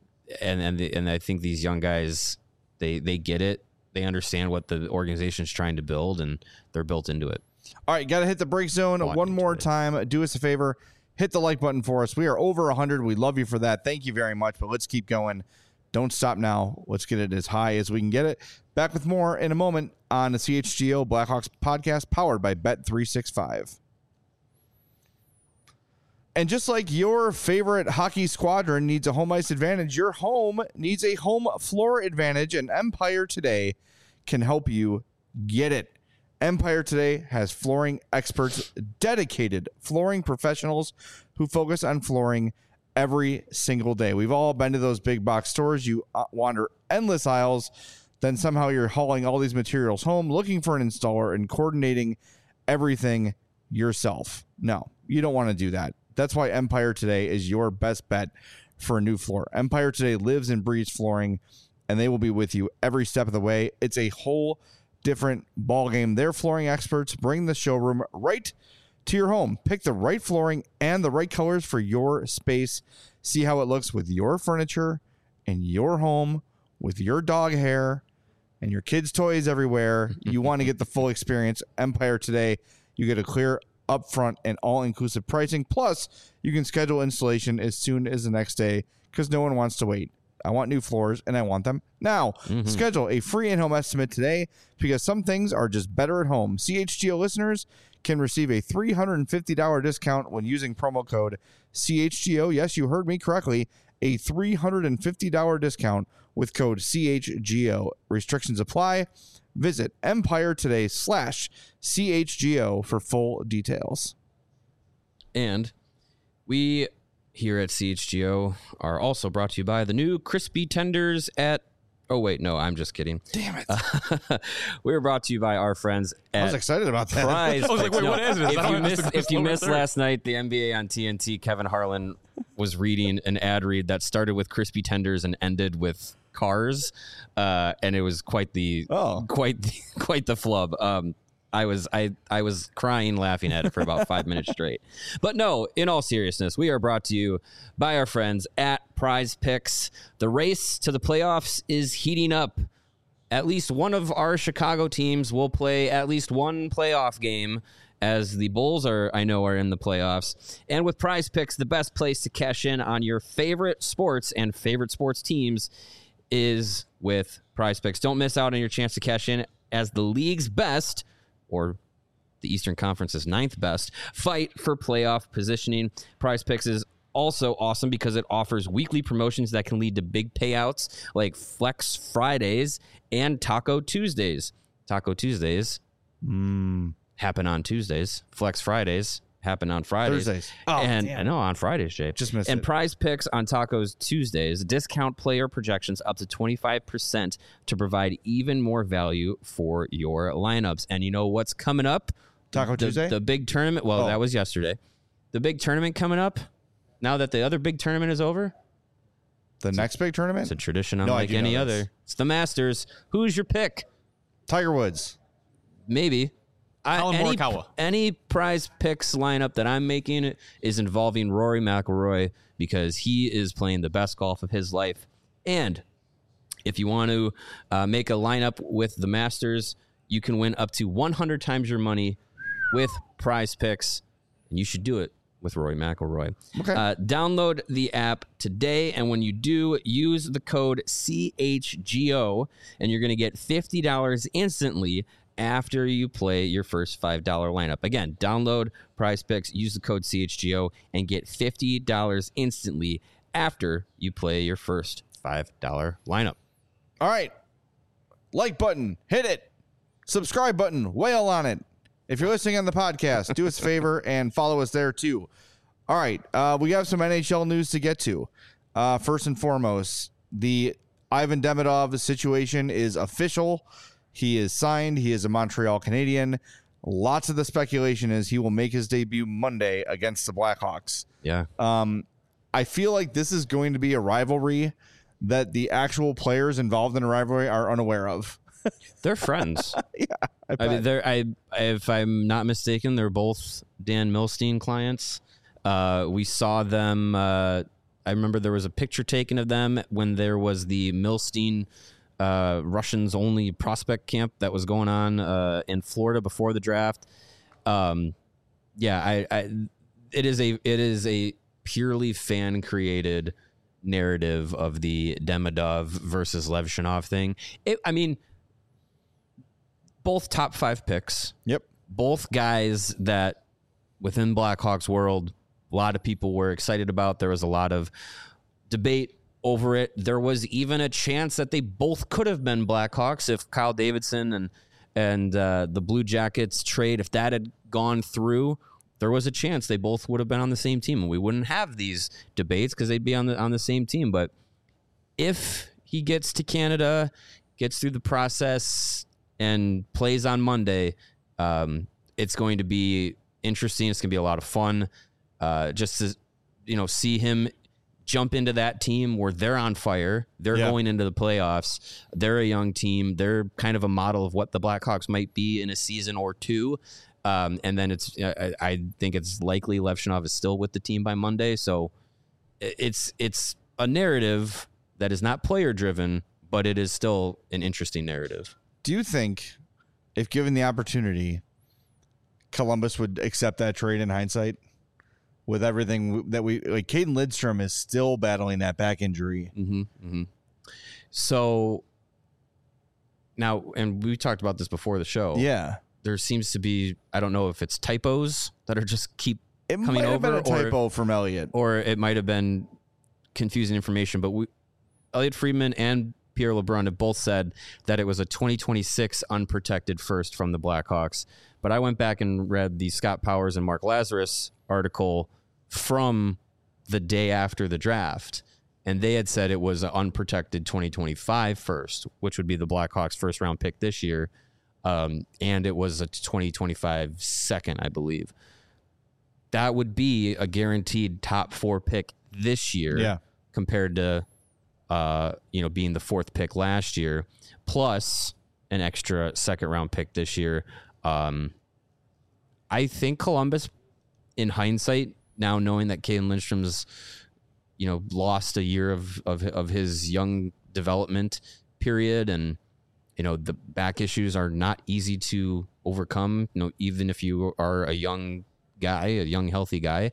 and I think these young guys they get it, they understand what the organization's trying to build, and they're built into it. All right, got to hit the break zone one more time. Do us a favor, hit the like button for us. We are over 100. We love you for that. Thank you very much. But let's keep going. Don't stop now. Let's get it as high as we can get it. Back with more in a moment on the CHGO Blackhawks podcast, powered by Bet365. And just like your favorite hockey squadron needs a home ice advantage, your home needs a home floor advantage, and Empire Today can help you get it. Empire Today has flooring experts, dedicated flooring professionals who focus on flooring every single day. We've all been to those big box stores. You wander endless aisles, then somehow you're hauling all these materials home, looking for an installer and coordinating everything yourself. No, you don't want to do that. That's why Empire Today is your best bet for a new floor. Empire Today lives and breathes flooring, and they will be with you every step of the way. It's a whole different ball game. Their flooring experts bring the showroom right to your home. Pick the right flooring and the right colors for your space. See how it looks with your furniture and your home, with your dog hair and your kids' toys everywhere. You want to get the full experience. Empire Today, you get a clear upfront and all-inclusive pricing. Plus, you can schedule installation as soon as the next day because no one wants to wait. I want new floors, and I want them now. Schedule a free in-home estimate today because some things are just better at home. CHGO listeners can receive a $350 discount when using promo code CHGO. Yes, you heard me correctly. A $350 discount with code CHGO. Restrictions apply. Visit Empire Today /CHGO for full details. And we here at CHGO are also brought to you by the new crispy tenders at... Oh, wait, no, I'm just kidding. Damn it. We're brought to you by our friends at I was excited about that. Prize I was like, Picks. wait, what is this? If you missed last night, the NBA on TNT, Kevin Harlan was reading an ad read that started with crispy tenders and ended with cars, and it was quite the flub. I was crying laughing at it for about 5 minutes straight. But no, in all seriousness, we are brought to you by our friends at Prize Picks. The race to the playoffs is heating up. At least one of our Chicago teams will play at least one playoff game, as the Bulls are in the playoffs. And with Prize Picks, the best place to cash in on your favorite sports and favorite sports teams is with Prize Picks. Don't miss out on your chance to cash in as the league's best, or the Eastern Conference's 9th best, fight for playoff positioning. Prize Picks is also awesome because it offers weekly promotions that can lead to big payouts like Flex Fridays and Taco Tuesdays. Taco Tuesdays happen on Tuesdays. Flex Fridays happen on Fridays. Thursdays. I know on Fridays, Jay. Just missed and it. Prize Picks on Tacos Tuesdays discount player projections up to 25% to provide even more value for your lineups. And you know what's coming up? Taco Tuesday? The big tournament. Well, that was yesterday. The big tournament coming up. Now that the other big tournament is over. The next big tournament? It's a tradition I unlike do any know this. other. It's the Masters. Who's your pick? Tiger Woods. Maybe. Colin Morikawa. Any Prize Picks lineup that I'm making is involving Rory McIlroy because he is playing the best golf of his life. And if you want to make a lineup with the Masters, you can win up to 100 times your money with Prize Picks, and you should do it with Rory McIlroy. Okay. Download the app today, and when you do, use the code CHGO, and you're going to get $50 instantly after you play your first $5 lineup. Again, download Prize Picks, use the code CHGO, and get $50 instantly after you play your first $5 lineup. All right. Like button. Hit it. Subscribe button. Whale on it. If you're listening on the podcast, do us a favor and follow us there too. All right. We have some NHL news to get to. First and foremost, the Ivan Demidov situation is official. He is signed. He is a Montreal Canadian. Lots of the speculation is he will make his debut Monday against the Blackhawks. Yeah. I feel like this is going to be a rivalry that the actual players involved in a rivalry are unaware of. They're friends. Yeah. I mean, if I'm not mistaken, they're both Dan Milstein clients. We saw them. I remember there was a picture taken of them when there was the Milstein Russians only prospect camp that was going on in Florida before the draft. It is a purely fan created narrative of the Demidov versus Levshunov thing. Both top 5 picks. Yep. Both guys that within Blackhawks world, a lot of people were excited about. There was a lot of debate over it. There was even a chance that they both could have been Blackhawks if Kyle Davidson and the Blue Jackets trade, if that had gone through, there was a chance they both would have been on the same team, and we wouldn't have these debates because they'd be on the same team. But if he gets to Canada, gets through the process, and plays on Monday, it's going to be interesting. It's going to be a lot of fun just to see him jump into that team where they're on fire. They're going into the playoffs. They're a young team. They're kind of a model of what the Blackhawks might be in a season or two. And then I think it's likely Levshunov is still with the team by Monday. So it's a narrative that is not player driven, but it is still an interesting narrative. Do you think, if given the opportunity, Columbus would accept that trade in hindsight? With everything that like, Caden Lidstrom is still battling that back injury. So now, and we talked about this before the show. Yeah. There seems to be, I don't know if it's typos that are just keep coming over. It might have been a typo from Elliot. Or it might have been confusing information. But Elliot Friedman and Pierre LeBrun have both said that it was a 2026 unprotected first from the Blackhawks. But I went back and read the Scott Powers and Mark Lazarus article from the day after the draft. And they had said it was an unprotected 2025 first, which would be the Blackhawks' first round pick this year. And it was a 2025 second, I believe. That would be a guaranteed top 4 pick this year compared to, being the 4th pick last year, plus an extra second round pick this year. I think Columbus, in hindsight, now knowing that Caden Lindstrom's, lost a year of his young development period, and the back issues are not easy to overcome. Even if you are a young guy, a young healthy guy,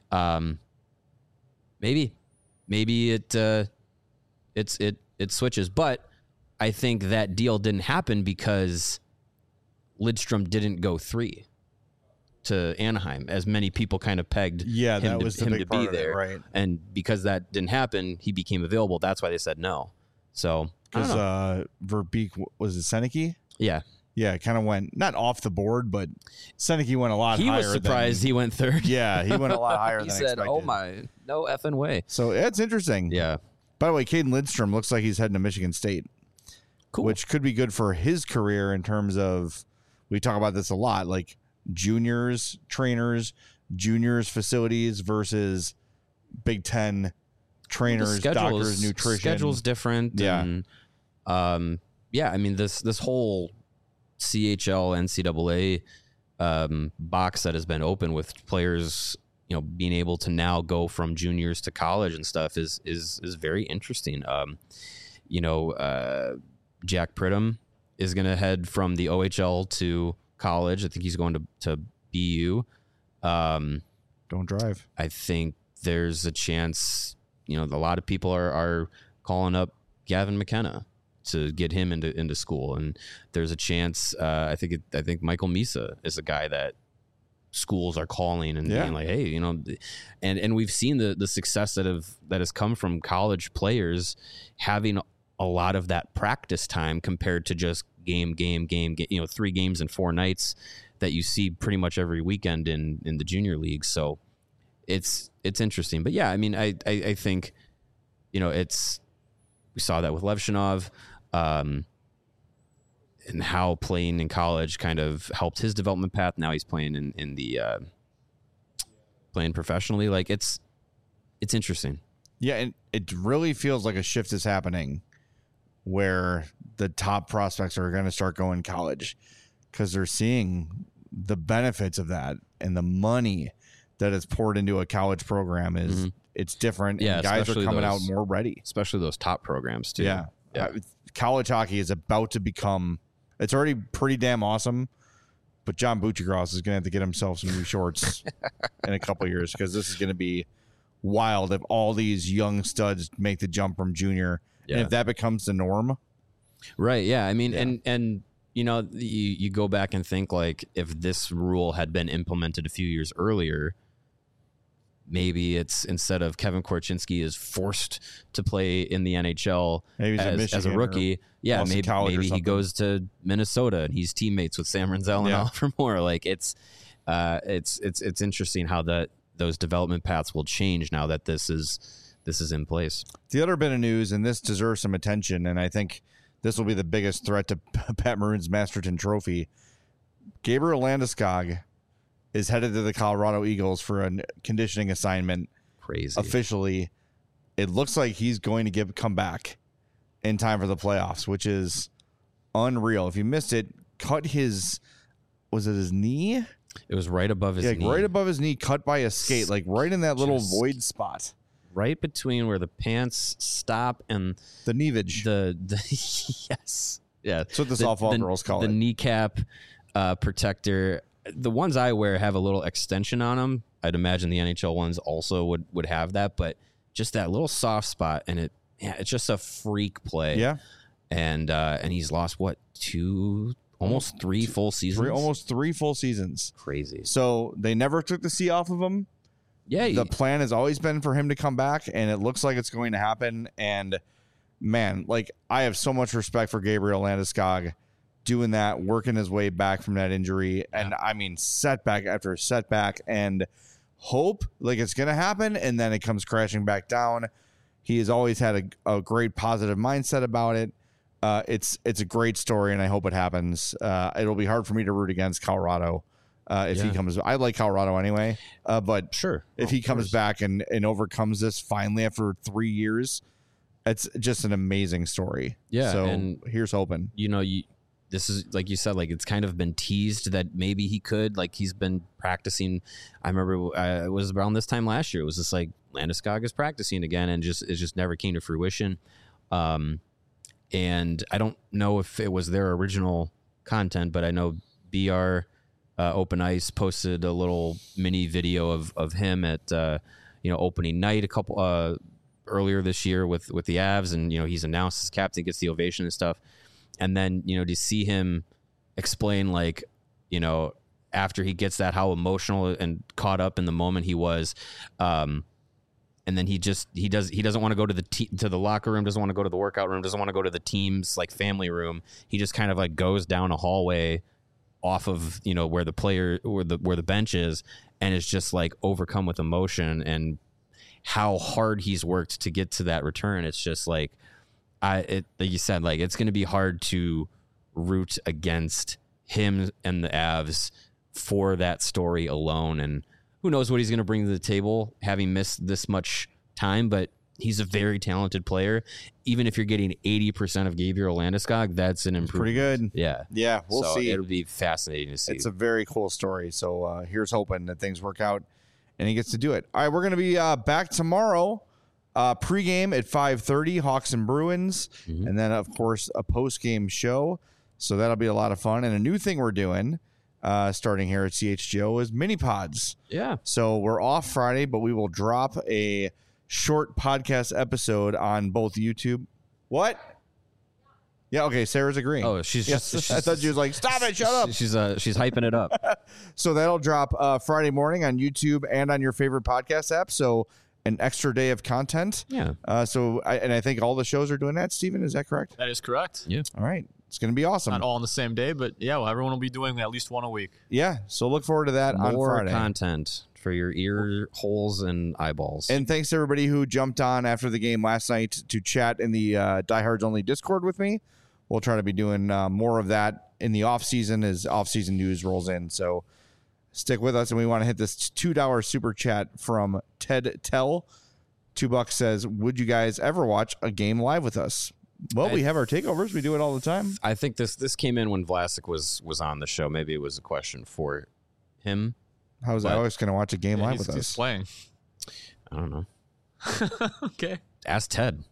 maybe it switches. But I think that deal didn't happen because Lidstrom didn't go 3 to Anaheim, as many people kind of pegged him to be there. Right. And because that didn't happen, he became available. That's why they said no. So, because Verbeek, was it Seneke? Yeah. Yeah, it kind of went, not off the board, but Seneke went a lot higher. He was surprised he went 3rd. Yeah, he went a lot higher than expected. He said, expected. oh my, no effing way. So it's interesting. Yeah. By the way, Caden Lidstrom looks like he's heading to Michigan State. Cool. Which could be good for his career in terms of, we talk about this a lot, like juniors, trainers, juniors facilities versus Big Ten trainers, doctors, nutrition. Schedule's different. Yeah. And, I mean, this whole CHL, NCAA box that has been open with players, being able to now go from juniors to college and stuff is very interesting. Jack Pridham is going to head from the OHL to college. I think he's going to BU. Don't drive. I think there's a chance, a lot of people are calling up Gavin McKenna to get him into school. And there's a chance, I think Michael Misa is a guy that schools are calling and being like, hey, and we've seen the success that has come from college players having a lot of that practice time compared to just game, 3 games in 4 nights that you see pretty much every weekend in the junior league. So it's interesting. But yeah, I mean, I think, we saw that with Levshunov, and how playing in college kind of helped his development path. Now he's playing in the playing professionally. Like it's interesting. Yeah, and it really feels like a shift is happening where the top prospects are going to start going college because they're seeing the benefits of that, and the money that is poured into a college program is it's different. Yeah, and guys are coming out more ready, especially those top programs too. Yeah. College hockey is about to become, it's already pretty damn awesome, but John Buccigross is going to have to get himself some new shorts in a couple of years, because this is going to be wild if all these young studs make the jump from junior. Yeah. And if that becomes the norm. Right. Yeah. I mean, and you go back and think, like, if this rule had been implemented a few years earlier, maybe it's, instead of Kevin Korchinski is forced to play in the NHL as a rookie, maybe he goes to Minnesota and he's teammates with Sam Renzel and Oliver Moore. Like it's interesting how those development paths will change now that this is in place. The other bit of news, and this deserves some attention, and I think this will be the biggest threat to Pat Maroon's Masterton Trophy. Gabriel Landeskog is headed to the Colorado Eagles for a conditioning assignment. Crazy. Officially, it looks like he's going to come back in time for the playoffs, which is unreal. If you missed it, cut his knee? It was right above his knee. Right above his knee, cut by a skate, like right in that little void spot. Right between where the pants stop and the kneevage. The yes. Yeah. That's what the softball girls call it. The it. kneecap protector. The ones I wear have a little extension on them. I'd imagine the NHL ones also would have that, but just that little soft spot, and it's just a freak play. Yeah. And he's lost almost 3 full seasons. Almost 3 full seasons. Crazy. So they never took the C off of him. Yeah. The plan has always been for him to come back, and it looks like it's going to happen. And man, like, I have so much respect for Gabriel Landeskog doing that, working his way back from that injury. And I mean, setback after setback, and hope like it's going to happen. And then it comes crashing back down. He has always had a great positive mindset about it. It's a great story, and I hope it happens. It'll be hard for me to root against Colorado if he comes. I like Colorado anyway, but sure, if he comes back and overcomes this finally after 3 years, it's just an amazing story. Yeah, so and here's hoping. This is, like you said, like it's kind of been teased that maybe he could. Like, he's been practicing. I remember it was around this time last year. It was just like Landeskog is practicing again, and it just never came to fruition. And I don't know if it was their original content, but I know BR Open Ice posted a little mini video of him at opening night a couple earlier this year with the Avs, and he's announced as captain, gets the ovation and stuff. And then, to see him explain, like, after he gets that, how emotional and caught up in the moment he was. And then he doesn't want to go to the locker room, doesn't want to go to the workout room, doesn't want to go to the team's like family room. He just kind of like goes down a hallway off of, where the bench is, and is just like overcome with emotion and how hard he's worked to get to that return. It's just like, like you said, like, it's going to be hard to root against him and the Avs for that story alone. And who knows what he's going to bring to the table, having missed this much time, but he's a very talented player. Even if you're getting 80% of Gabriel Landeskog, that's an improvement. Pretty good. Yeah. Yeah, we'll see. It'll be fascinating to see. It's a very cool story. So here's hoping that things work out and he gets to do it. All right, we're going to be back tomorrow. Pregame at 5:30, Hawks and Bruins, and then of course a postgame show. So that'll be a lot of fun. And a new thing we're doing, starting here at CHGO, is mini pods. Yeah. So we're off Friday, but we will drop a short podcast episode on both YouTube. What? Yeah. Okay. Sarah's agreeing. Oh, she's I thought she was like, "Stop it! Shut up." She's hyping it up. So that'll drop Friday morning on YouTube and on your favorite podcast app. So an extra day of content. Yeah. I think all the shows are doing that. Steven, is that correct? That is correct. Yeah. All right. It's going to be awesome. Not all on the same day, but yeah, well, everyone will be doing at least one a week. Yeah. So look forward to that on More Friday. content for your ear holes and eyeballs. And thanks to everybody who jumped on after the game last night to chat in the Diehards Only Discord with me. We'll try to be doing more of that in the off season as off season news rolls in. So stick with us, and we want to hit this $2 super chat from Ted Tell. $2 says, "Would you guys ever watch a game live with us?" Well, we have our takeovers. We do it all the time. I think this came in when Vlasic was on the show. Maybe it was a question for him. How's Alex going to watch a game live with us? He's playing. I don't know. Okay. Ask Ted.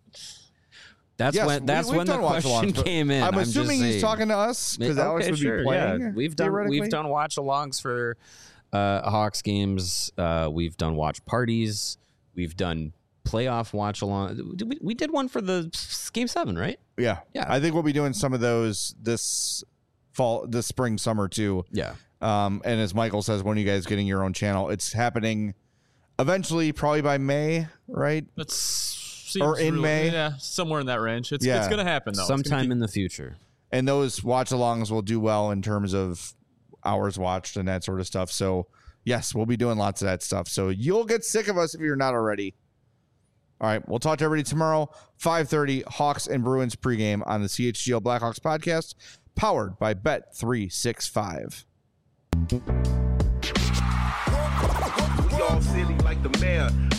That's Yes, when we've the done question watch-alongs, but came in. I'm assuming just he's saying. talking to us because Alex would be playing. Yeah. We've done watch-alongs for Hawks games. We've done watch parties. We've done playoff watch-along. We did one for the Game 7, right? Yeah. I think we'll be doing some of those this spring, summer too. Yeah. And as Michael says, when are you guys getting your own channel? It's happening eventually, probably by May, right? May. Yeah, somewhere in that range. It's going to happen, though. Sometime in the future. And those watch-alongs will do well in terms of hours watched and that sort of stuff. So, yes, we'll be doing lots of that stuff. So you'll get sick of us if you're not already. All right, we'll talk to everybody tomorrow, 5:30, Hawks and Bruins pregame on the CHGO Blackhawks podcast, powered by Bet365. We all silly like the mayor.